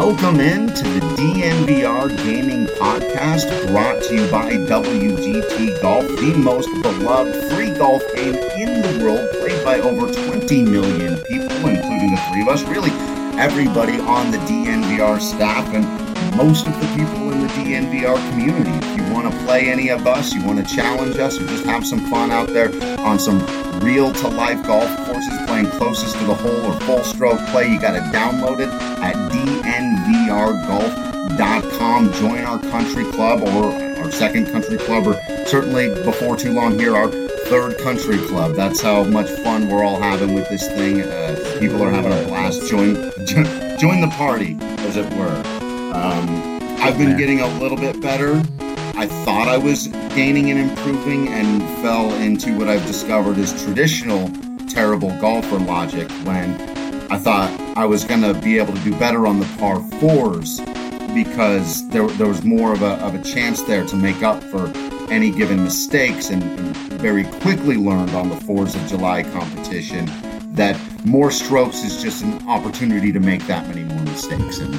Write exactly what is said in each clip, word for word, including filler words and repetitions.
Welcome in to the D N V R Gaming Podcast, brought to you by W G T Golf, the most beloved free golf game in the world, played by over twenty million people, including the three of us, really everybody on the D N V R staff and most of the people in the D N V R community. If you want to play any of us, you want to challenge us, or just have some fun out there on some real-to-life golf courses, playing closest to the hole or full stroke play, you got to download it at D N V R golf dot com. Join our country club, or our second country club, or certainly before too long here, our third country club. That's how much fun we're all having with this thing. Uh, people are having a blast. Join, join the party, as it were. Um, I've been getting a little bit better. I thought I was gaining and improving, and fell into what I've discovered is traditional terrible golfer logic, when I thought I was going to be able to do better on the par fours because there, there was more of a, of a chance there to make up for any given mistakes, and, and very quickly learned on the fours of July competition that more strokes is just an opportunity to make that many more mistakes. And,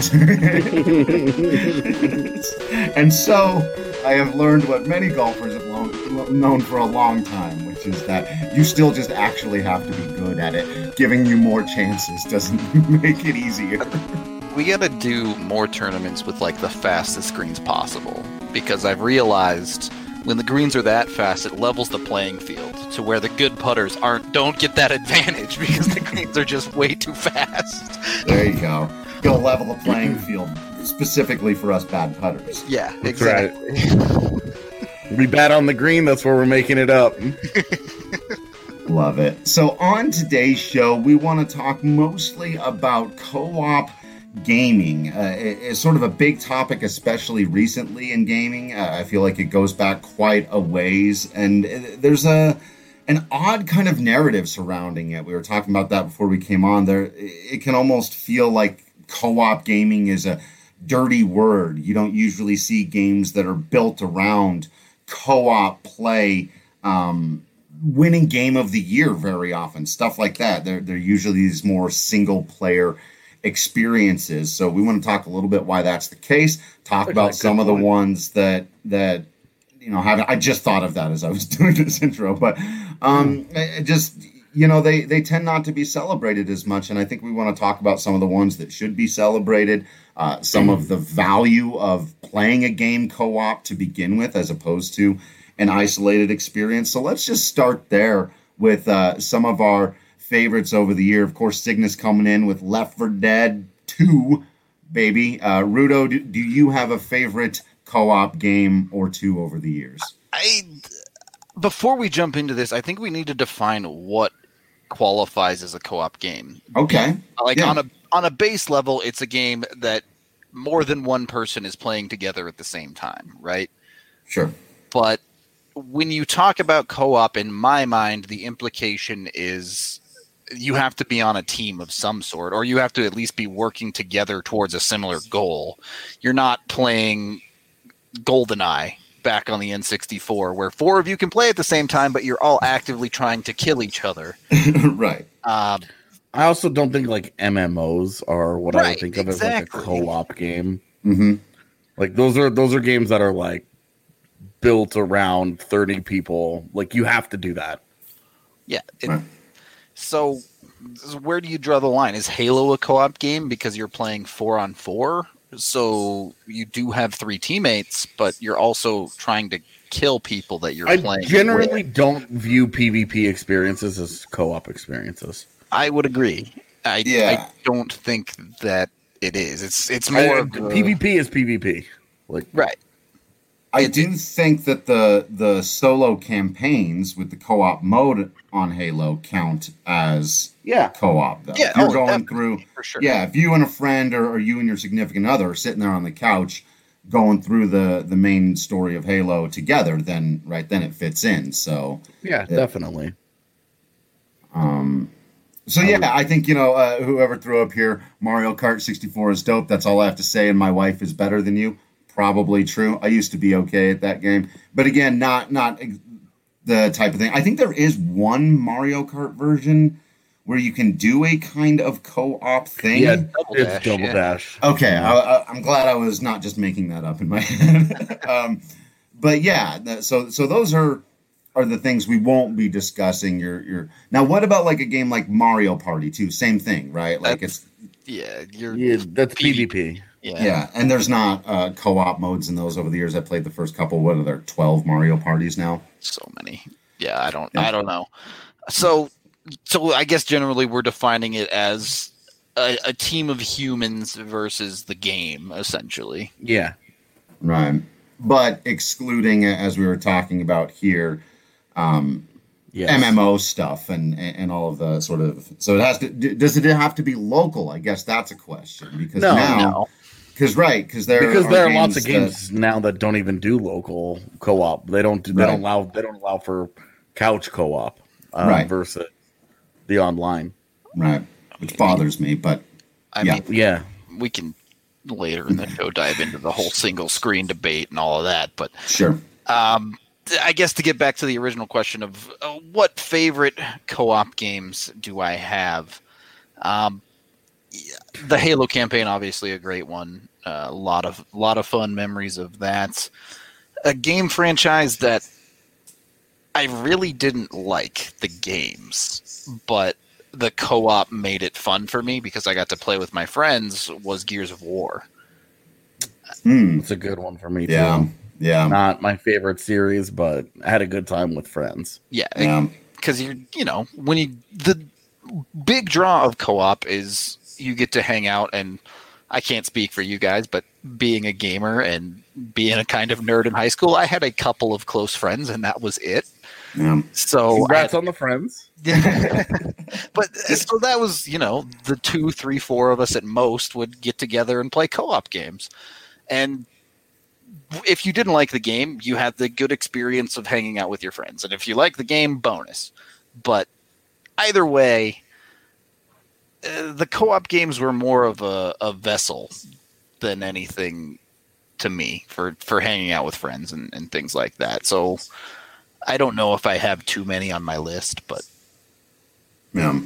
and so I have learned what many golfers have long, known for a long time, which is that you still just actually have to be good at it. Giving you more chances doesn't make it easier. We gotta do more tournaments with like the fastest greens possible, because I've realized when the greens are that fast, it levels the playing field to where the good putters aren't don't get that advantage because the greens are just way too fast. There you go. Go level the playing field specifically for us bad putters. Yeah, That's exactly. Right. We bat on the green, that's where we're making it up. Love it. So on today's show, we want to talk mostly about co-op gaming. Uh, it's sort of a big topic, especially recently in gaming. Uh, I feel like it goes back quite a ways, and there's a an odd kind of narrative surrounding it. We were talking about that before we came on. There, it can almost feel like co-op gaming is a dirty word. You don't usually see games that are built around co-op play um, winning game of the year very often. Stuff like that. They're, they're usually these more single-player experiences. So we want to talk a little bit why that's the case. Talk about some of the ones that that you know have. I just thought of that as I was doing this intro, but um, mm. just you know they they tend not to be celebrated as much, and I think we want to talk about some of the ones that should be celebrated. Uh, some mm. of the value of playing a game co-op to begin with, as opposed to an isolated experience. So let's just start there with uh, some of our favorites over the year. Of course, Cygnus coming in with Left four Dead two, baby. Uh, Rudo, do, do you have a favorite co-op game or two over the years? I, before we jump into this, I think we need to define what qualifies as a co-op game. Okay. Like yeah. on a on a base level, it's a game that more than one person is playing together at the same time, right? Sure. But when you talk about co-op, in my mind, the implication is you have to be on a team of some sort, or you have to at least be working together towards a similar goal. You're not playing GoldenEye back on the N sixty-four, where four of you can play at the same time, but you're all actively trying to kill each other. Right. Um, I also don't think like M M Os are what right, I would think of exactly. as like a co-op game. Mm-hmm. Like those are those are games that are like built around thirty people. Like you have to do that. Yeah. It, right. So where do you draw the line? Is Halo a co-op game because you're playing four on four? So you do have three teammates, but you're also trying to kill people that you're I playing generally with. don't view PvP experiences as co-op experiences. I would agree. I, yeah. I don't think that it is. It's it's more I, of a, PvP is PvP. Like right. I It- do think that the the solo campaigns with the co-op mode on Halo count as yeah. co-op, though. Yeah, If you're oh, going definitely, through, for sure. yeah, if you and a friend or, or you and your significant other are sitting there on the couch going through the, the main story of Halo together, then right then it fits in. So Yeah, it, definitely. Um, so yeah, I think, you know, uh, whoever threw up here, Mario Kart sixty-four is dope. That's all I have to say. And my wife is better than you. Probably true. I used to be okay at that game, but again, not not the type of thing. I think there is one Mario Kart version where you can do a kind of co-op thing. Yeah, Double it's Dash, Double yeah. Dash. Okay, I, I, I'm glad I was not just making that up in my head. um, but yeah, th- so so those are are the things we won't be discussing. Your your now, what about like a game like Mario Party two? Same thing, right? Like That's- it's Yeah, you're Yeah, that's PvP. PvP. yeah. yeah, and there's not uh, co-op modes in those over the years. I played the first couple. What are there? twelve Mario Parties now. So many. Yeah, I don't Yeah. I don't know. So so I guess generally we're defining it as a, a team of humans versus the game, essentially. Yeah. Right. But excluding, as we were talking about here, um, Yes. M M O stuff and, and all of the sort of. So it has to. Does it have to be local? I guess that's a question because No, now, No. because right, because there Because are there are games lots of that- games now that don't even do local co-op. They don't. They Right. don't allow. They don't allow for couch co-op um, Right. versus the online. right, which bothers me. But I Yeah. mean, Yeah. we can later in the show dive into the whole single screen debate and all of that, but sure, um I guess to get back to the original question of uh, what favorite co-op games do I have? Um, yeah, the Halo campaign, obviously a great one. Uh, a lot of lot of fun memories of that. A game franchise that I really didn't like the games, but the co-op made it fun for me because I got to play with my friends. Was Gears of War. Hmm. It's a good one for me too. yeah, yeah, Not my favorite series, but I had a good time with friends. Yeah, yeah, because you're you know when you the big draw of co-op is you get to hang out, and I can't speak for you guys, but being a gamer and being a kind of nerd in high school, I had a couple of close friends and that was it. yeah. So Congrats on the friends. but so that was you know the two three four of us at most would get together and play co-op games. And if you didn't like the game, you had the good experience of hanging out with your friends. And if you like the game, bonus. But either way, uh, the co-op games were more of a, a vessel than anything to me for, for hanging out with friends and, and things like that. So I don't know if I have too many on my list, but yeah.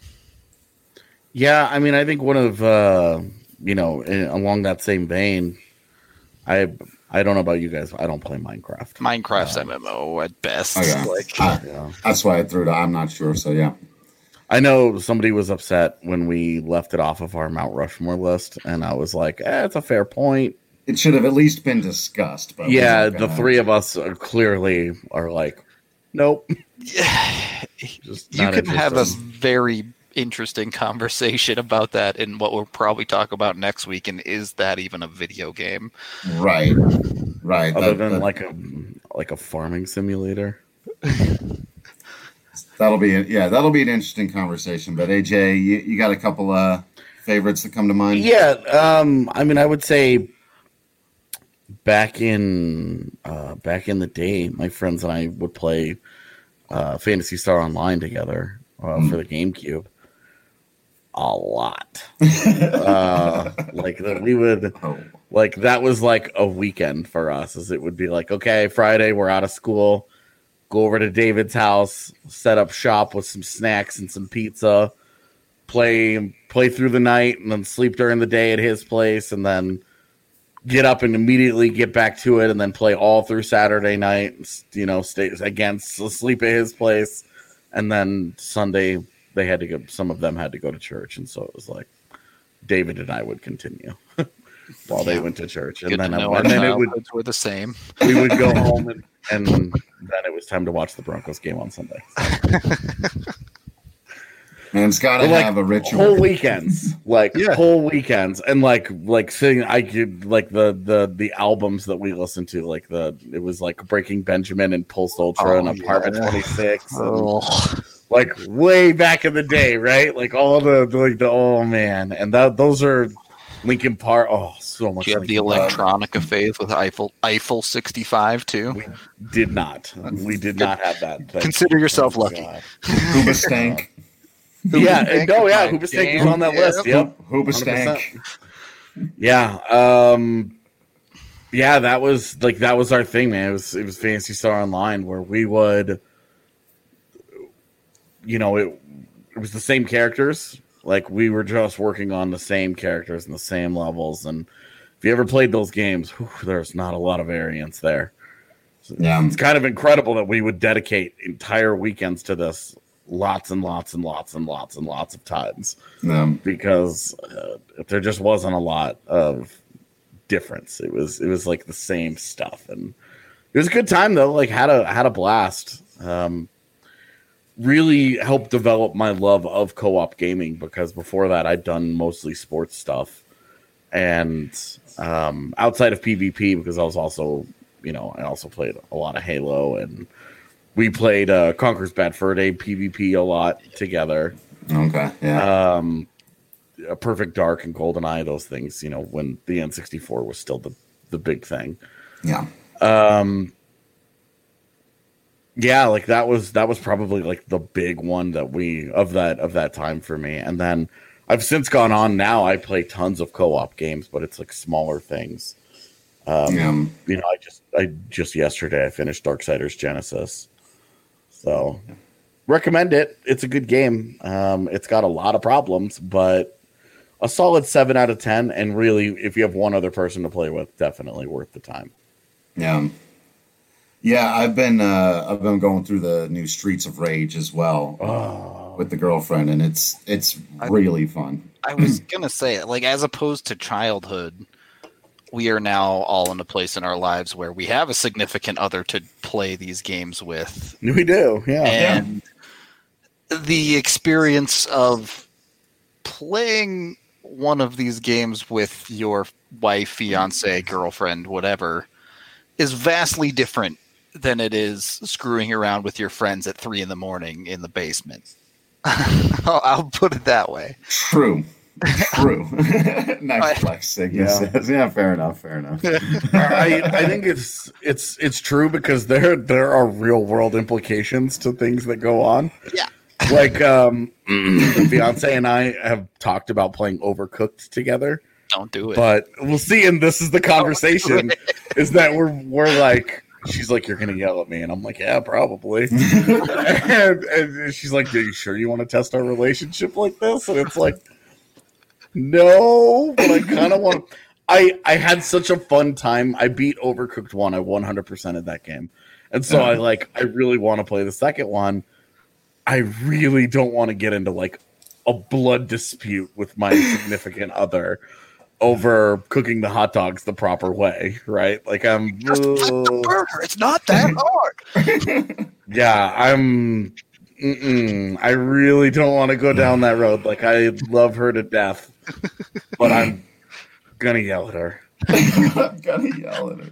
Yeah, I mean, I think one of uh, you know, in, along that same vein, I I don't know about you guys. I don't play Minecraft. Minecraft's Um, M M O at best. Okay. Like, Uh, Yeah. That's why I threw it. I'm not sure. So yeah, I know somebody was upset when we left it off of our Mount Rushmore list, and I was like, eh, "It's a fair point." it should have at least been discussed. But we're Yeah, not the gonna- three of us are clearly are like, "Nope." Just you not can have a interested. very interesting conversation about that in what we'll probably talk about next week. And is that even a video game? Right, right. other That- than that- like a like a farming simulator. That'll be a, yeah, that'll be an interesting conversation. But A J, you, you got a couple uh favorites that come to mind? Yeah, um, I mean, I would say back in uh, back in the day, my friends and I would play uh, Phantasy Star Online together uh, Mm. for the GameCube. A lot, uh, like that we would Oh, like that was like a weekend for us. As it would be like, okay, Friday we're out of school, go over to David's house, set up shop with some snacks and some pizza, play play through the night, and then sleep during the day at his place, and then get up and immediately get back to it, and then play all through Saturday night. You know, stay again, sleep at his place, and then Sunday they had to go. Some of them had to go to church, and so it was like David and I would continue while they Yeah. went to church, and Good then to I, know our and then it would childhoods were the same. we would go home, and, and then it was time to watch the Broncos game on Sunday. man, it's got to But, like, have a ritual. Whole weekends, like Yeah. whole weekends, and like like sitting, I could like the the the albums that we listened to, like the it was like Breaking Benjamin and Pulse Ultra Oh, and Apartment yeah. twenty-six, and, Oh, like way back in the day, right? Like all the like the oh man, and that those are Linkin Park. Oh, so much. do you have the Linkin Park. electronica phase with Eiffel Eiffel sixty-five too? We did not. We did not have that. Thank Consider you. yourself Oh, lucky. God. Hooba Stank. Yeah, Hoobastank no, yeah, is my Hoobastank was jam. on that list. Yep. Hooba one hundred Stank. percent. Yeah. Um yeah, that was like that was our thing, man. It was it was Fantasy Star Online where we would you know, it it was the same characters. Like we were just working on the same characters and the same levels. And if you ever played those games, whew, there's not a lot of variance there. So Yeah. it's kind of incredible that we would dedicate entire weekends to this, lots and lots and lots and lots and lots of times, Yeah. because uh, there just wasn't a lot of difference. It was it was like the same stuff, and it was a good time though. Like had a had a blast. Um, really helped develop my love of co-op gaming, because before that I'd done mostly sports stuff, and um, outside of PvP, because I was also, you know, I also played a lot of Halo, and we played uh, Conker's Bad Fur Day PvP a lot together. Okay. Yeah. Um, a Perfect Dark and GoldenEye, those things, you know, when the N sixty-four was still the, the big thing. yeah. Um, yeah, like that was that was probably like the big one that we of that of that time for me. And then I've since gone on. Now I play tons of co-op games, but it's like smaller things. Um, Yeah. You know, I just I just yesterday I finished Darksiders Genesis, so recommend it. It's a good game. Um, it's got a lot of problems, but a solid seven out of ten. And really, if you have one other person to play with, definitely worth the time. Yeah. Yeah, I've been uh, I've been going through the new Streets of Rage as well Oh. with the girlfriend, and it's it's really fun. I was gonna say, like, as opposed to childhood, we are now all in a place in our lives where we have a significant other to play these games with, We do, yeah. and the experience of playing one of these games with your wife, fiance, girlfriend, whatever, is vastly different than it is screwing around with your friends at three in the morning in the basement. I'll, I'll put it that way. True. True. Nice flex, Siggy Yeah. says. Yeah, fair enough. Fair enough. I, I think it's it's it's true, because there there are real world implications to things that go on. Yeah. Like um, the fiance and I have talked about playing Overcooked together, Don't do it. but we'll see. And this is the conversation: is that we're we're like, she's like, "You're gonna yell at me," and I'm like, "Yeah, probably." and, and she's like, "Are you sure you want to test our relationship like this?" And it's like, no, but I kind of want. I I had such a fun time. I beat Overcooked one. I one hundred percented that game, and so I like. I really want to play the second one. I really don't want to get into like a blood dispute with my significant other over cooking the hot dogs the proper way, right? Like I'm. Just flip the burger. It's not that hard. Yeah, I'm. Mm-mm. I really don't want to go down that road. Like I love her to death, but I'm gonna yell at her. I'm gonna yell at her.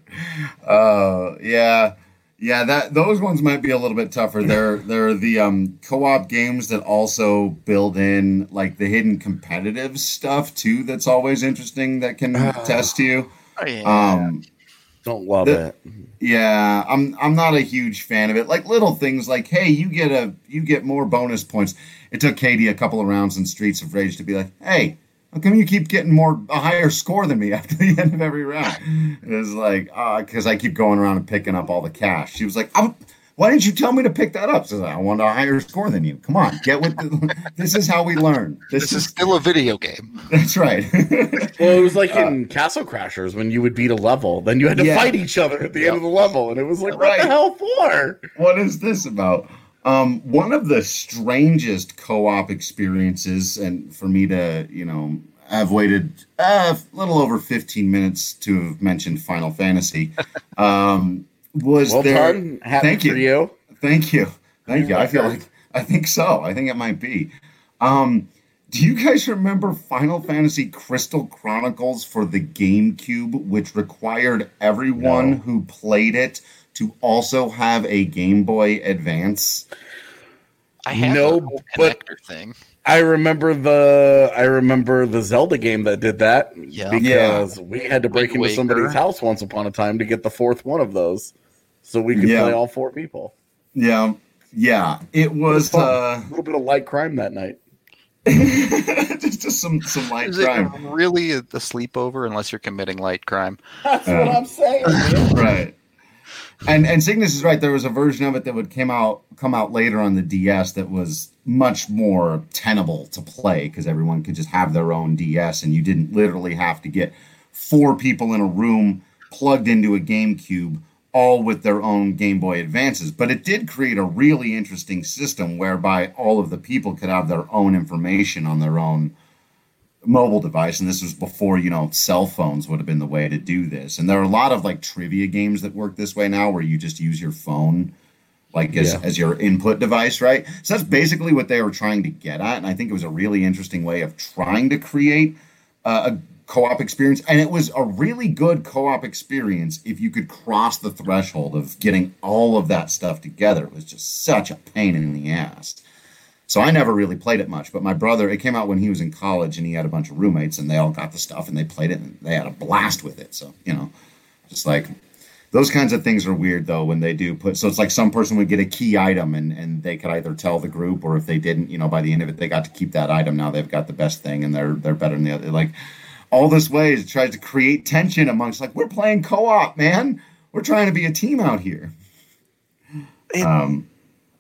Uh, yeah, yeah. That those ones might be a little bit tougher. They're they're the um, co-op games that also build in like the hidden competitive stuff too. That's always interesting. That can test you. Oh, yeah. Um, Don't love The- it. Yeah, I'm I'm not a huge fan of it. Like little things like, hey, you get a you get more bonus points. It took Katie a couple of rounds in Streets of Rage to be like, hey, how come you keep getting more a higher score than me after the end of every round? It was like, uh, because I keep going around and picking up all the cash. She was like, I'm, why didn't you tell me to pick that up? So I want a higher score than you. Come on, get with the, this is how we learn. This, This is is still a video game. that's right. Well, it was like in Castle Crashers when you would beat a level, then you had to Yeah. fight each other at the end of the level, and it was like, what Right. the hell for? What is this about? Um, one of the strangest co-op experiences, and for me to, you know, I've waited uh, a little over fifteen minutes to have mentioned Final Fantasy. Um, was Well there? done. Happy Thank for you. you. Thank you. Thank you. I feel record. like I think so. I think it might be. Um, do you guys remember Final Fantasy Crystal Chronicles for the GameCube, which required everyone No. who played it to also have a Game Boy Advance? I have No, the whole but- connector thing. I remember the I remember the Zelda game that did that Yeah. because we had to break Wind into somebody's Waker. house once upon a time to get the fourth one of those, so we could Yeah. play all four people. Yeah, yeah. It was fun. uh, A little bit of light crime that night. just, just some some light Is it crime, really a, a sleepover unless you're committing light crime? That's Yeah. what I'm saying. man. right? And and Cygnus is right. There was a version of it that would come out come out later on the D S that was much more tenable to play because everyone could just have their own D S, and you didn't literally have to get four people in a room plugged into a GameCube, all with their own Game Boy Advances. But it did create a really interesting system whereby all of the people could have their own information on their own mobile device, and this was before, you know, cell phones would have been the way to do this. And there are a lot of like trivia games that work this way now where you just use your phone like as, yeah. as your input device, right? So that's basically what they were trying to get at, and I think it was a really interesting way of trying to create uh, a co-op experience. And it was a really good co-op experience if you could cross the threshold of getting all of that stuff together. It was just such a pain in the ass. So I never really played it much, but my brother, it came out when he was in college and he had a bunch of roommates and they all got the stuff and they played it and they had a blast with it. So, you know, just like those kinds of things are weird though when they do put, so it's like some person would get a key item and, and they could either tell the group, or if they didn't, you know, by the end of it, they got to keep that item. Now they've got the best thing and they're, they're better than the other. Like all this ways it tries to create tension amongst like, we're playing co-op, man. We're trying to be a team out here. It, um,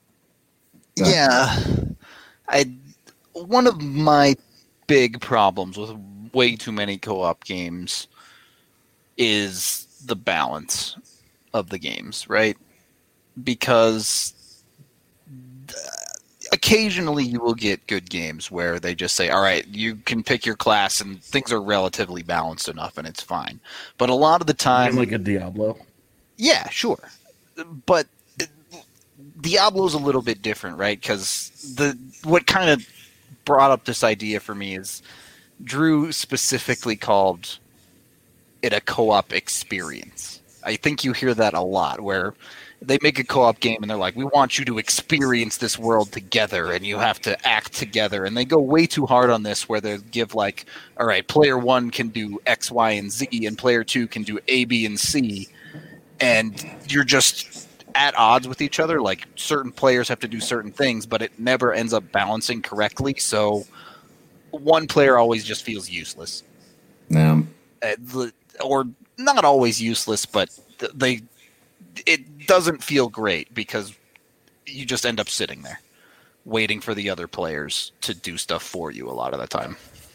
yeah. I one of my big problems with way too many co-op games is the balance of the games, right? Because occasionally you will get good games where they just say, all right, you can pick your class and things are relatively balanced enough and it's fine. But a lot of the time... Like a Diablo? Yeah, sure. But Diablo's a little bit different, right? Because the what kind of brought up this idea for me is Drew specifically called it a co-op experience. I think you hear that a lot, where they make a co-op game and they're like, we want you to experience this world together and you have to act together. And they go way too hard on this, where they give like, all right, player one can do X, Y, and Z, and player two can do A, B, and C. And you're just at odds with each other. Like certain players have to do certain things, but it never ends up balancing correctly. So one player always just feels useless. Yeah. Uh, the, or not always useless, but they it doesn't feel great because you just end up sitting there waiting for the other players to do stuff for you a lot of the time.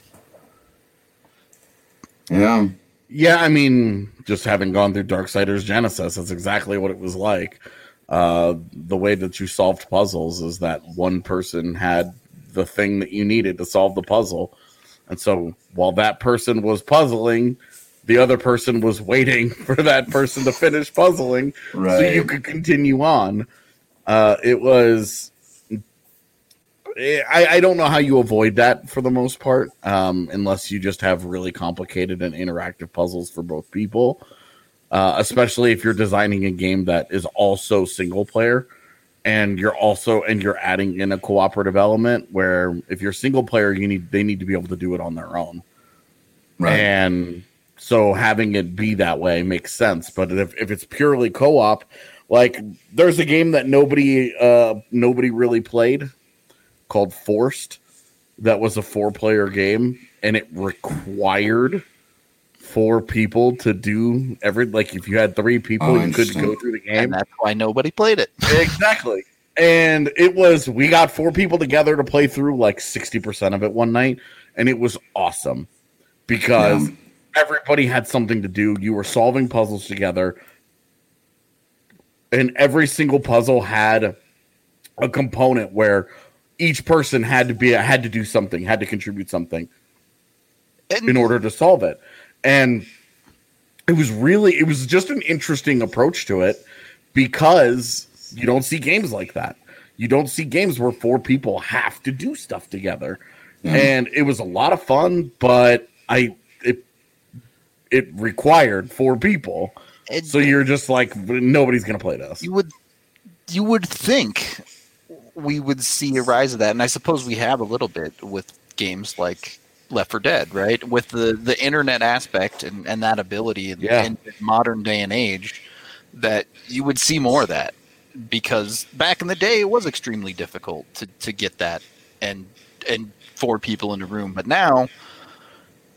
Yeah. Yeah, I mean, just having gone through Darksiders Genesis, that's exactly what it was like. Uh, the way that you solved puzzles is that one person had the thing that you needed to solve the puzzle. And so while that person was puzzling, the other person was waiting for that person to finish puzzling right. so you could continue on. Uh, it was... I, I don't know how you avoid that for the most part, um, unless you just have really complicated and interactive puzzles for both people, uh, especially if you're designing a game that is also single player and you're also and you're adding in a cooperative element where if you're single player, you need they need to be able to do it on their own. Right. And so having it be that way makes sense. But if, if it's purely co-op, like there's a game that nobody uh, nobody really played called Forced, that was a four-player game, and it required four people to do every, like if you had three people, oh, you couldn't go through the game. And that's why nobody played it. Exactly. And it was, we got four people together to play through like sixty percent of it one night, and it was awesome because yeah. everybody had something to do. You were solving puzzles together, and every single puzzle had a component where each person had to be had to do something, had to contribute something and, in order to solve it. And it was really, it was just an interesting approach to it because you don't see games like that. You don't see games where four people have to do stuff together. Mm. And it was a lot of fun, but I it it required four people. It, so you're just like, nobody's going to play this. You would you would think we would see a rise of that, and I suppose we have a little bit with games like Left four Dead, right? With the, the internet aspect and, and that ability in, yeah. in modern day and age, that you would see more of that. Because back in the day, it was extremely difficult to, to get that and and four people in a room. But now,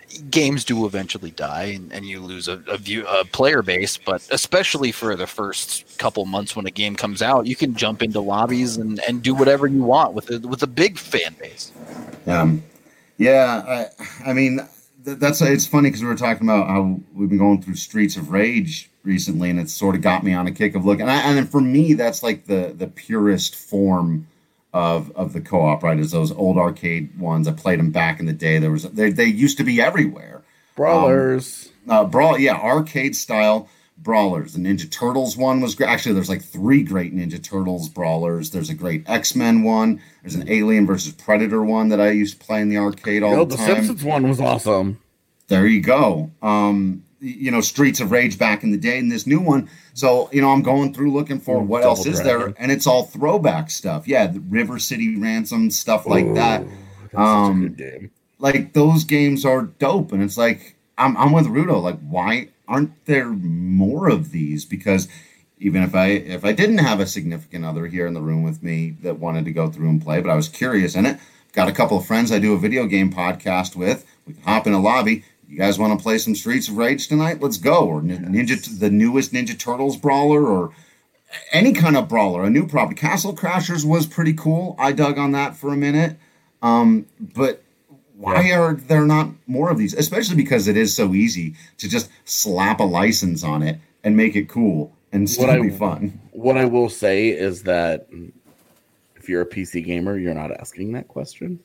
games do eventually die, and, and you lose a, a view a player base. But especially for the first couple months when a game comes out, you can jump into lobbies and, and do whatever you want with a, with a big fan base. Um, yeah, I, I mean, th- that's it's funny because we were talking about how we've been going through Streets of Rage recently, and it's sort of got me on a kick of looking. And, I, and for me, that's like the the purest form of of the co-op, right? Is those old arcade ones. I played them back in the day. There was they they used to be everywhere. Brawlers, um, uh, brawl, yeah, arcade style brawlers. The Ninja Turtles one was great. Actually, there's like three great Ninja Turtles brawlers. There's a great X-Men one. There's an Alien versus Predator one that I used to play in the arcade all Yo, the the time. Simpsons one was awesome. There you go. Um, you know, Streets of Rage back in the day, and this new one. So, you know, I'm going through looking for what Double else is Dragon. there, and it's all throwback stuff. Yeah, the River City Ransom, stuff like Ooh, that. That's Um, such a good game. Like, those games are dope, and it's like, I'm, I'm with Rudo. Like, why aren't there more of these? Because even if I if I didn't have a significant other here in the room with me that wanted to go through and play, but I was curious in it, got a couple of friends I do a video game podcast with. We can hop in a lobby. You guys want to play some Streets of Rage tonight? Let's go. Or Ninja, the newest Ninja Turtles brawler, or any kind of brawler, a new property. Castle Crashers was pretty cool. I dug on that for a minute. Um, but why Yeah. are there not more of these? Especially because it is so easy to just slap a license on it and make it cool and still What I- be fun. What I will say is that if you're a P C gamer, you're not asking that question.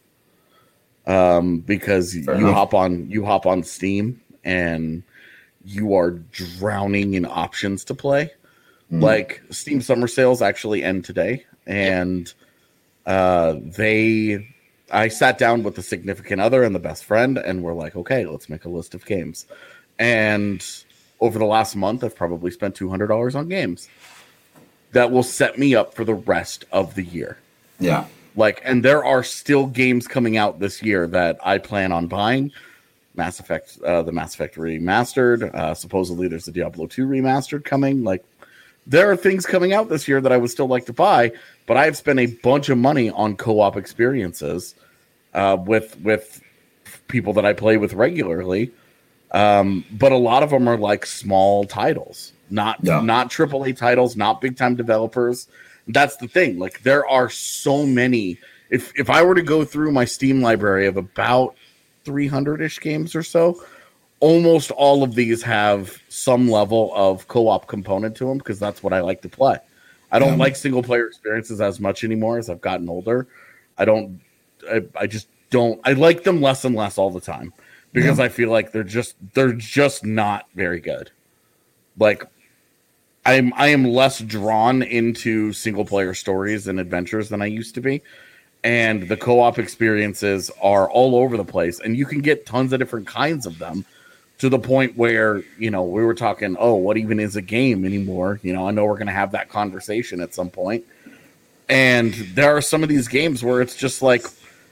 Um, because Fair you enough. hop on you hop on Steam and you are drowning in options to play. Mm. Like Steam summer sales actually end today, and uh, they I sat down with the significant other and the best friend, and we're like, okay, let's make a list of games. And over the last month, I've probably spent two hundred dollars on games that will set me up for the rest of the year. Yeah. Like, and there are still games coming out this year that I plan on buying. Mass Effect, uh, the Mass Effect remastered. Uh, supposedly, there's the Diablo two remastered coming. Like, there are things coming out this year that I would still like to buy, but I've spent a bunch of money on co-op experiences uh, with with people that I play with regularly. Um, but a lot of them are like small titles, not Yeah. not triple A titles, not big time developers. That's the thing. Like, there are so many. If if I were to go through my Steam library of about three hundred ish games or so, almost all of these have some level of co-op component to them because that's what I like to play. I don't Yeah. like single player experiences as much anymore as I've gotten older. I don't. I, I just don't. I like them less and less all the time because Yeah. I feel like they're just they're just not very good. Like, I'm I am less drawn into single player stories and adventures than I used to be. And the co-op experiences are all over the place, and you can get tons of different kinds of them to the point where, you know, we were talking, oh, what even is a game anymore? You know, I know we're going to have that conversation at some point. And there are some of these games where it's just like,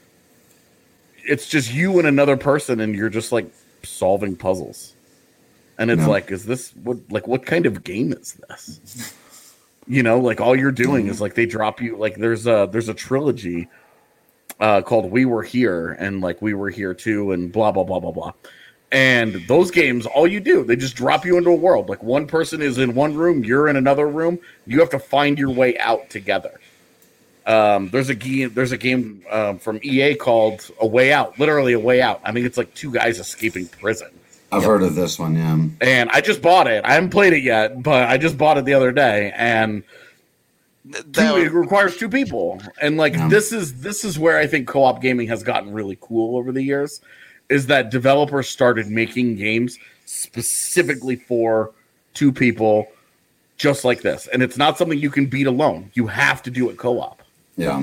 it's just you and another person, and you're just like solving puzzles. And it's No. like, is this what, like, what kind of game is this? You know, like all you're doing is like they drop you, like there's a there's a trilogy uh, called We Were Here and like We Were Here Too and blah blah blah blah blah. And those games, all you do, they just drop you into a world. Like one person is in one room, you're in another room. You have to find your way out together. Um, there's a game there's a game um, from E A called A Way Out, literally A Way Out. I mean, it's like two guys escaping prison. I've heard of this one, yeah. And I just bought it. I haven't played it yet, but I just bought it the other day, and Th- two, that- it requires two people. And like Yeah. this is this is where I think co-op gaming has gotten really cool over the years, is that developers started making games specifically for two people, just like this. And it's not something you can beat alone. You have to do it co-op. Yeah.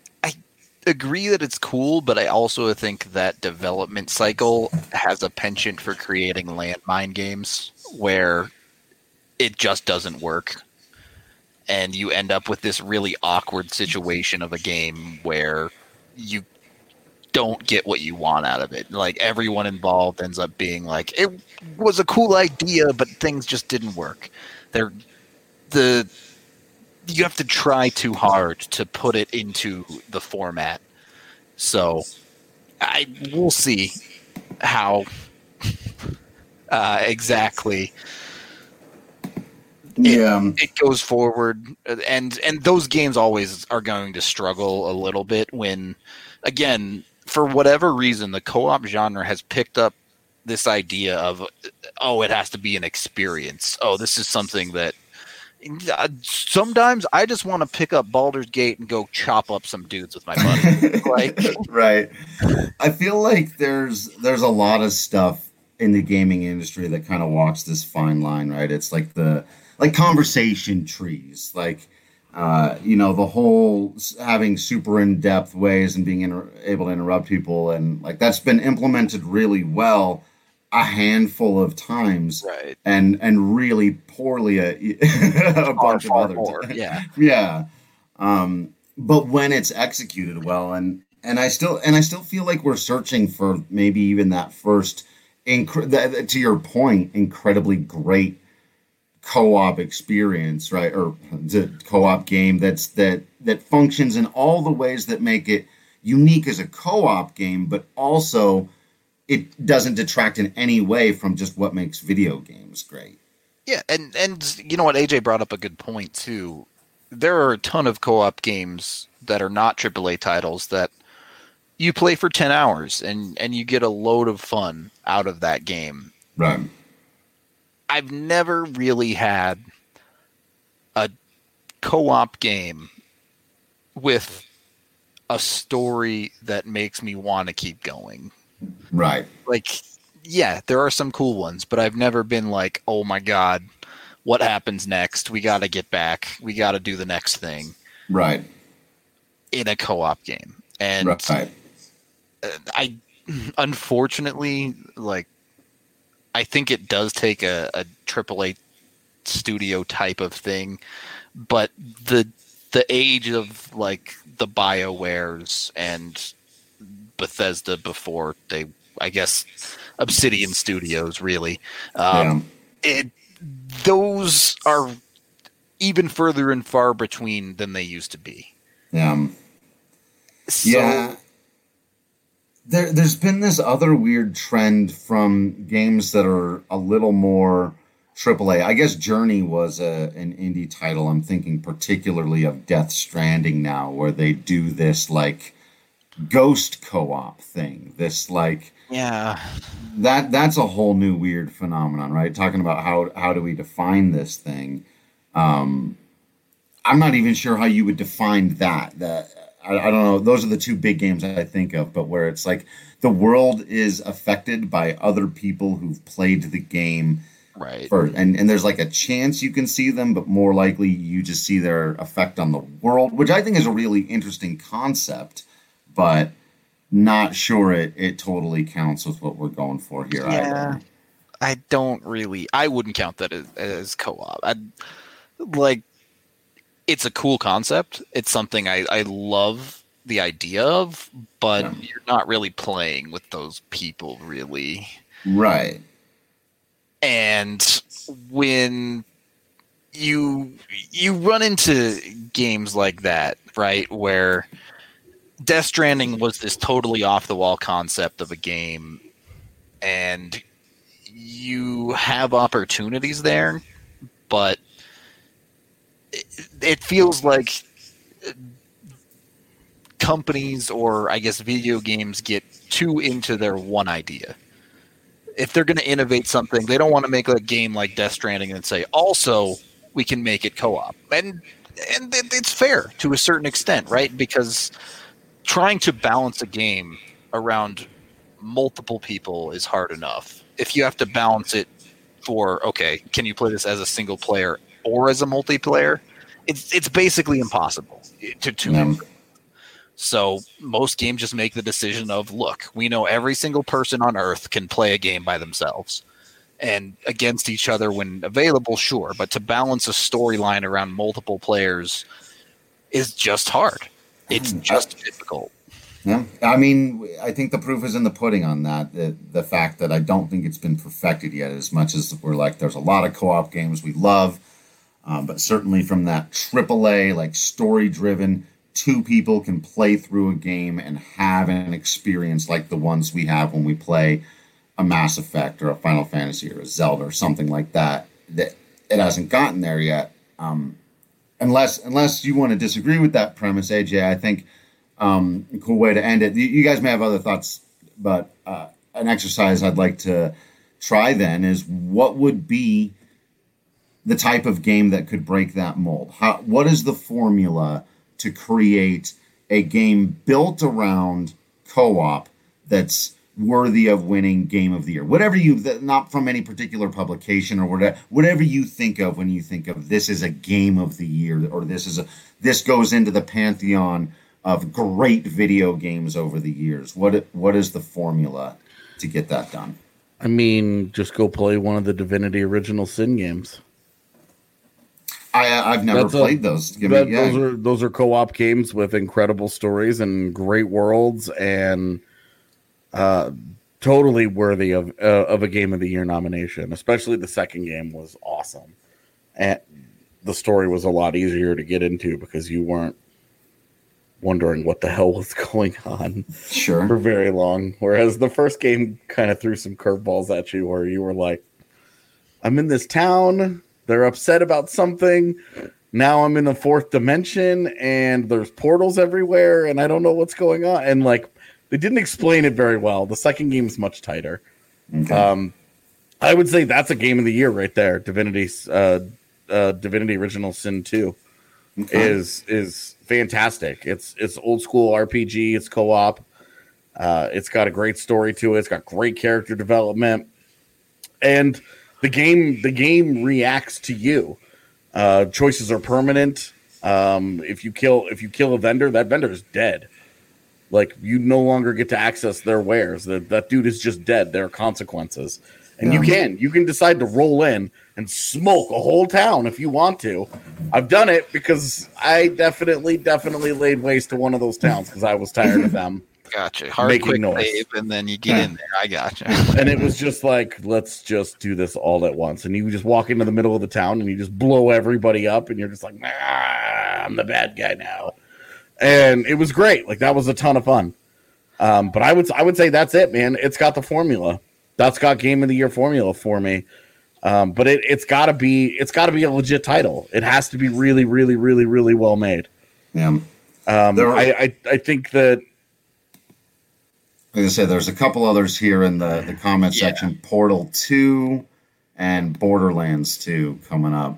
agree that it's cool, but I also think that development cycle has a penchant for creating landmine games where it just doesn't work. And you end up with this really awkward situation of a game where you don't get what you want out of it. Like everyone involved ends up being like, it was a cool idea, but things just didn't work. They're the you have to try too hard to put it into the format. So I we'll see how Uh, exactly. Yeah, it, it goes forward, and and those games always are going to struggle a little bit when, again, for whatever reason, the co-op genre has picked up this idea of, oh, it has to be an experience. Oh, this is something that sometimes I just want to pick up Baldur's Gate and go chop up some dudes with my buddy. Like, right. I feel like there's there's a lot of stuff in the gaming industry that kind of walks this fine line, right? It's like the like conversation trees, like uh, you know, the whole having super in-depth ways and being inter- able to interrupt people, and like that's been implemented really well a handful of times, right, and and really poorly a, a bunch far, of other more, times. Yeah, yeah. Um, but when it's executed well, and and I still and I still feel like we're searching for maybe even that first, inc- that, to your point, incredibly great co-op experience, right? Or the co-op game that's that that functions in all the ways that make it unique as a co-op game, but also it doesn't detract in any way from just what makes video games great. Yeah, and and you know what, A J brought up a good point too. There are a ton of co-op games that are not triple A titles that you play for ten hours and and you get a load of fun out of that game. Right. I've never really had a co-op game with a story that makes me want to keep going. Right. Like, yeah, there are some cool ones, but I've never been like, oh my God, what happens next? We got to get back. We got to do the next thing. Right. In a co-op game. And right. I, unfortunately, like, I think it does take a, a triple A studio type of thing, but the the age of like the BioWares and Bethesda before they, I guess, Obsidian Studios really, um, yeah. it those are even further and far between than they used to be. Yeah. So, yeah. There, there's been this other weird trend from games that are a little more triple A. I guess Journey was a, an indie title. I'm thinking particularly of Death Stranding now, where they do this like ghost co-op thing. This like yeah, that that's a whole new weird phenomenon, right? Talking about how how do we define this thing? Um, I'm not even sure how you would define that. That. I, I don't know. Those are the two big games I think of, but where it's like the world is affected by other people who've played the game. Right. First. And, and there's like a chance you can see them, but more likely you just see their effect on the world, which I think is a really interesting concept, but not sure it, it totally counts with what we're going for here. Yeah. Either. I don't really, I wouldn't count that as, as co-op. I'd like, it's a cool concept. It's something I, I love the idea of, but yeah. You're not really playing with those people, really. Right. And when you you run into games like that, right, where Death Stranding was this totally off-the-wall concept of a game, and you have opportunities there, but it feels like companies or I guess video games get too into their one idea. If they're going to innovate something, they don't want to make a game like Death Stranding and say, also, we can make it co-op. And and it's fair to a certain extent, right? Because trying to balance a game around multiple people is hard enough. If you have to balance it for, okay, can you play this as a single player or as a multiplayer, it's it's basically impossible to to yeah. So most games just make the decision of, look, we know every single person on Earth can play a game by themselves and against each other when available, sure, but to balance a storyline around multiple players is just hard. It's just I, difficult. Yeah, I mean, I think the proof is in the pudding on that. The, the fact that I don't think it's been perfected yet, as much as we're like, there's a lot of co-op games we love. Um, but certainly from that triple A, like story-driven, two people can play through a game and have an experience like the ones we have when we play a Mass Effect or a Final Fantasy or a Zelda or something like that, that it hasn't gotten there yet. Um, unless unless you want to disagree with that premise, A J, I think um, a cool way to end it. You, you guys may have other thoughts, but uh, an exercise I'd like to try then is what would be the type of game that could break that mold? How, what is the formula to create a game built around co-op that's worthy of winning Game of the Year? Whatever you, not from any particular publication or whatever, whatever you think of when you think of this is a Game of the Year, or this is a this goes into the pantheon of great video games over the years. What what is the formula to get that done? I mean, just go play one of the Divinity Original Sin games. I, I've never That's played a, those. Give that, me, yeah. Those are those are co-op games with incredible stories and great worlds, and uh, totally worthy of uh, of a Game of the Year nomination. Especially the second game was awesome, and the story was a lot easier to get into because you weren't wondering what the hell was going on Sure. for very long. Whereas the first game kind of threw some curveballs at you, where you were like, "I'm in this town. They're upset about something. Now I'm in a fourth dimension and there's portals everywhere and I don't know what's going on." And like, they didn't explain it very well. The second game is much tighter. Okay. Um, I would say that's a Game of the Year right there. Divinity, uh, uh, Divinity Original Sin two Okay. is is fantastic. It's it's old school R P G. It's co-op. Uh, it's got a great story to it. It's got great character development, and the game the game reacts to you. Uh, choices are permanent. Um, if you kill if you kill a vendor, that vendor is dead. Like, you no longer get to access their wares. That that dude is just dead. There are consequences, and Yeah. you can you can decide to roll in and smoke a whole town if you want to. I've done it because I definitely definitely laid waste to one of those towns because I was tired of them. Gotcha. Hard Making quick noise. save, and then you get Yeah. in there. I gotcha. And it was just like, let's just do this all at once. And you just walk into the middle of the town and you just blow everybody up, and you're just like, nah, I'm the bad guy now. And it was great. Like, that was a ton of fun. Um, but I would I would say that's it, man. It's got the formula. That's got Game of the Year formula for me. Um, but it, it's gotta be it's gotta be a legit title. It has to be really, really, really, really well made. Yeah. Um, There are- I, I I think that Like I said, there's a couple others here in the, the comment Yeah. section. Portal two and Borderlands two coming up.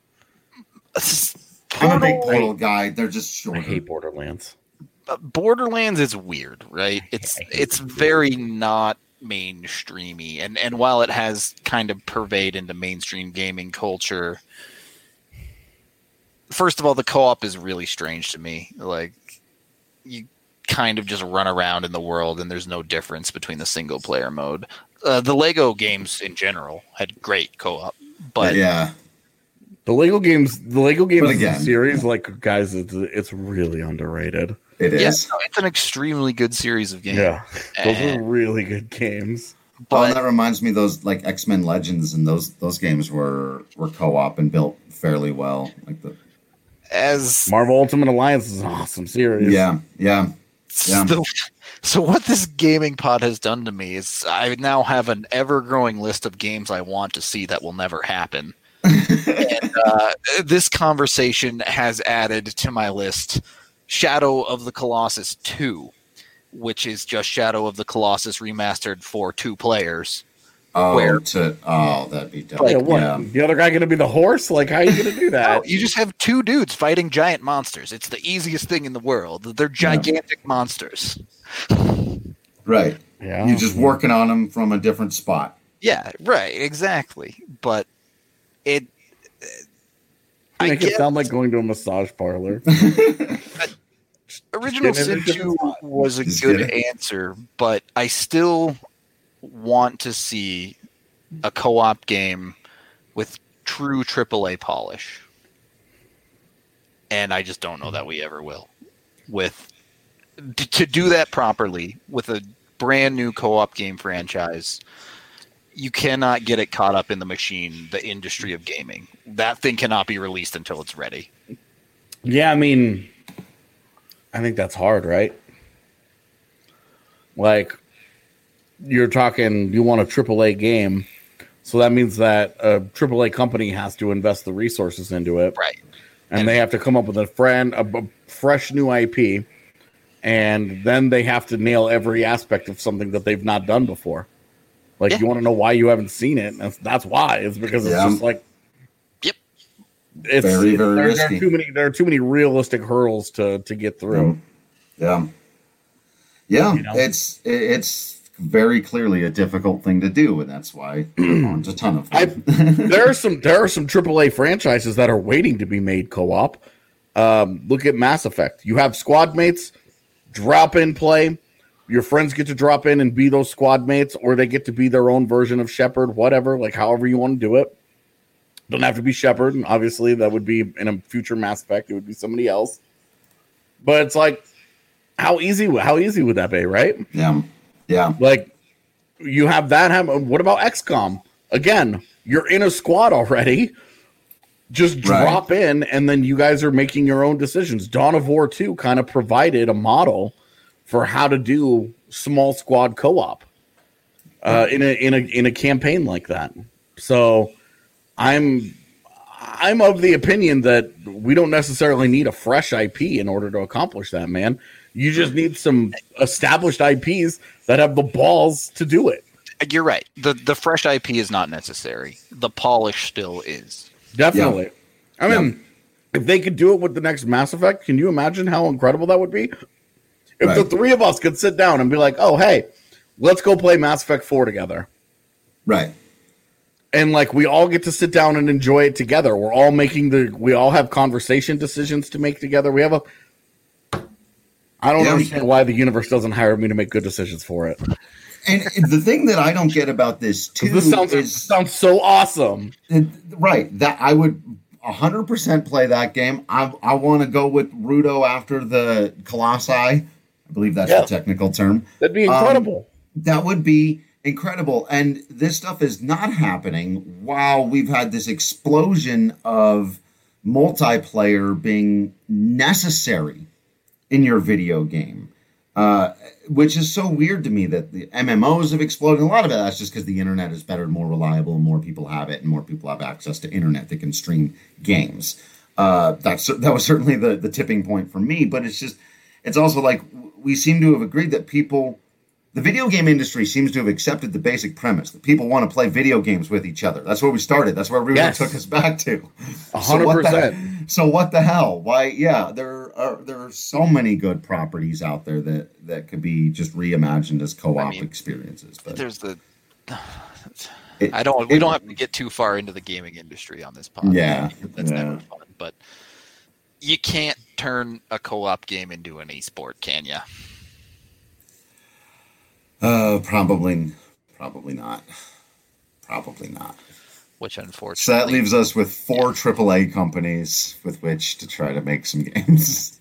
I'm a big Portal- Portal guy. They're just I shorter. hate Borderlands. Borderlands is weird, right? It's I hate it's it. very not mainstreamy, and and while it has kind of pervade into mainstream gaming culture, first of all, the co-op is really strange to me. Like, you kind of just run around in the world, and there's no difference between the single player mode. Uh, the Lego games in general had great co-op, but yeah. The Lego games, the Lego games But again- series, like, guys, it's, it's really underrated. It is. yes, it's an extremely good series of games. Yeah, those And- are really good games. Oh, but and that reminds me, those like X-Men Legends and those those games were were co-op and built fairly well. Like the as Marvel Ultimate Alliance is an awesome series. yeah, yeah. Yeah. So, so what this gaming pod has done to me is I now have an ever-growing list of games I want to see that will never happen. and uh, this conversation has added to my list Shadow of the Colossus two, which is just Shadow of the Colossus remastered for two players. Oh, Where? to oh, that'd be dope. Like, Yeah, what? Yeah. The other guy going to be the horse? Like, how are you going to do that? No, you just have two dudes fighting giant monsters. It's the easiest thing in the world. They're gigantic monsters. Right. Yeah, You're just working on them from a different spot. Yeah, right, exactly. But it... I Make it get sound like going to a massage parlor. Original Just Sin get it in a two different spot. was a Just good get it. answer, but I still want to see a co-op game with true triple A polish. And I just don't know that we ever will. With t- to do that properly with a brand new co-op game franchise, you cannot get it caught up in the machine, the industry of gaming. That thing cannot be released until it's ready. Yeah, I mean, I think that's hard, right? Like, you're talking you want a triple A game, so that means that a triple A company has to invest the resources into it, right? And, And they have to come up with a friend a, a fresh new I P, and then they have to nail every aspect of something that they've not done before. Like Yeah. you want to know why you haven't seen it. That's, that's why. It's because it's Yeah. just like Yep. it's Very, it- very there, there risky. are too many. There are too many realistic hurdles to to get through. Yeah. Yeah. You know? It's it's very clearly a difficult thing to do, and that's why there's a ton of I, them. there are some there are some triple A franchises that are waiting to be made co-op. Um, look at Mass Effect. You have squad mates, drop in play. Your friends get to drop in and be those squad mates, or they get to be their own version of Shepard, whatever, like however you want to do it. Don't have to be Shepard, and obviously that would be in a future Mass Effect, it would be somebody else. But it's like, how easy how easy would that be, right? Yeah. Yeah. Like, you have that happen. What about X COM? Again, you're in a squad already. Just drop Right. in, and then you guys are making your own decisions. Dawn of War two kind of provided a model for how to do small squad co-op uh, in a in a in a campaign like that. So, I'm I'm of the opinion that we don't necessarily need a fresh I P in order to accomplish that, man. You just need some established I Ps that have the balls to do it. You're right. The the fresh I P is not necessary. The polish still is. Definitely. I mean, if they could do it with the next Mass Effect, can you imagine how incredible that would be? If the Right. three of us could sit down and be like, oh, hey, let's go play Mass Effect four together. Right. And like we all get to sit down and enjoy it together. We're all making the we all have conversation decisions to make together. We have a I don't Yeah. understand why the universe doesn't hire me to make good decisions for it. And the thing that I don't get about this too This sounds is sounds so awesome. right that I would one hundred percent play that game. I I want to go with Rudo after the Colossi. I believe that's Yeah. the technical term. That'd be Um, incredible. That would be incredible. And this stuff is not happening while we've had this explosion of multiplayer being necessary in your video game, uh, which is so weird to me that the M M Os have exploded. A lot of it that's just because the internet is better and more reliable, and more people have it, and more people have access to internet that can stream games. Uh, that's that was certainly the the tipping point for me. But it's just it's also like we seem to have agreed that people. The video game industry seems to have accepted the basic premise that people want to play video games with each other. That's where we started. That's where Rudo Yes. took us back to. A So hundred what the- percent. So what the hell? Why? Yeah, there are there are so many good properties out there that that could be just reimagined as co-op I mean, experiences. But There's the. it- I don't. We it- don't have to get too far into the gaming industry on this podcast. Yeah, That's yeah. never fun. But you can't turn a co-op game into an esport, can you? Uh, probably, probably not. Probably not. Which unfortunately. So that leaves us with four triple A companies with which to try to make some games.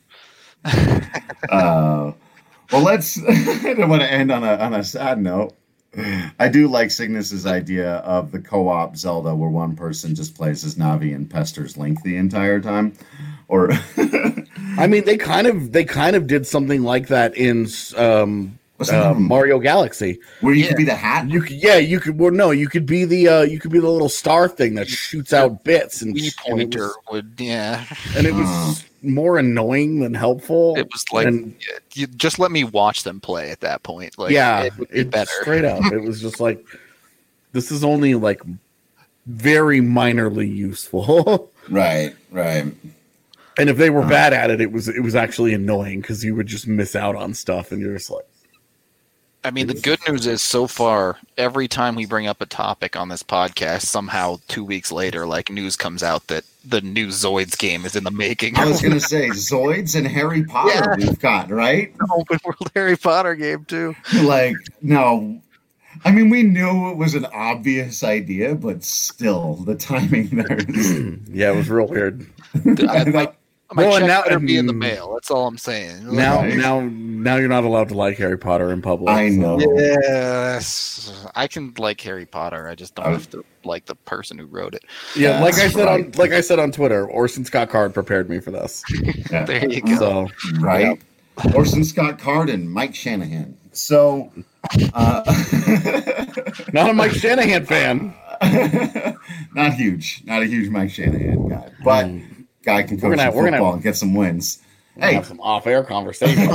uh, well, let's. I don't want to end on a on a sad note. I do like Cygnus's idea of the co-op Zelda, where one person just plays as Navi and pesters Link the entire time. Or, I mean, they kind of they kind of did something like that in um, What's that uh, one? Mario Galaxy. where you Yeah. could be the hat. You could, yeah, you could. Well, no, you could be the uh, you could be the little star thing that shoots out bits and, Wii and it pointer was, would, yeah. and it was more annoying than helpful. It was like, and, you just let me watch them play at that point. Like, yeah, it would be it better. straight up. It was just like this is only like very minorly useful. Right, right. And if they were bad at it, it was it was actually annoying because you would just miss out on stuff, and you're just like, I mean, the good news is so far, every time we bring up a topic on this podcast, somehow two weeks later, like news comes out that the new Zoids game is in the making. I was going to say Zoids and Harry Potter Yeah. we've got, right? open world Harry Potter game too. Like, no. I mean, we knew it was an obvious idea, but still, the timing there is. yeah, it was real weird. I, my my Well, and check now- better be in the um, mail. That's all I'm saying. Now, Right. now, now you're not allowed to like Harry Potter in public. I know. Yes, I can like Harry Potter. I just don't I- have to like the person who wrote it. Yeah, like I That's said on right. like I said on Twitter, Orson Scott Card prepared me for this. Yeah. There you go. So Right? Orson Scott Card and Mike Shanahan. So, uh, not a Mike Shanahan fan. Not huge. Not a huge Mike Shanahan guy. But mm. guy can coach gonna, football gonna have, and get some wins. Hey, have some off-air conversation.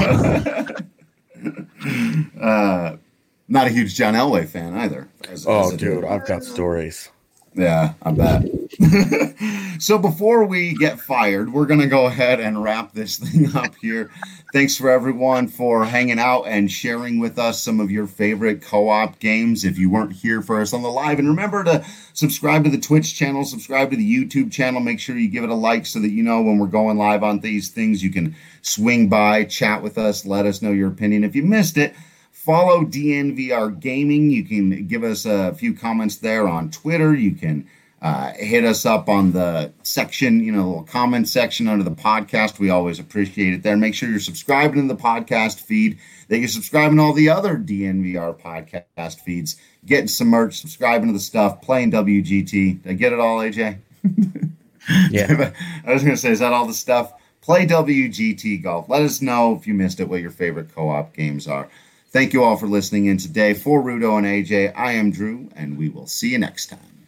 uh, not a huge John Elway fan either. As, oh, as dude, I've got stories. Yeah, I bet. So before we get fired, we're going to go ahead and wrap this thing up here. Thanks for everyone for hanging out and sharing with us some of your favorite co-op games if you weren't here for us on the live. And remember to subscribe to the Twitch channel, subscribe to the YouTube channel. Make sure you give it a like so that you know when we're going live on these things. You can swing by, chat with us, let us know your opinion. If you missed it, follow D N V R Gaming. You can give us a few comments there on Twitter. You can uh, hit us up on the section, you know, little comment section under the podcast. We always appreciate it there. Make sure you're subscribing to the podcast feed, that you're subscribing to all the other D N V R podcast feeds, getting some merch, subscribing to the stuff, playing W G T. Did I get it all, A J? Yeah. I was going to say, is that all the stuff? Play W G T Golf. Let us know if you missed it, what your favorite co-op games are. Thank you all for listening in today. For Rudo and A J, I am Drew, and we will see you next time.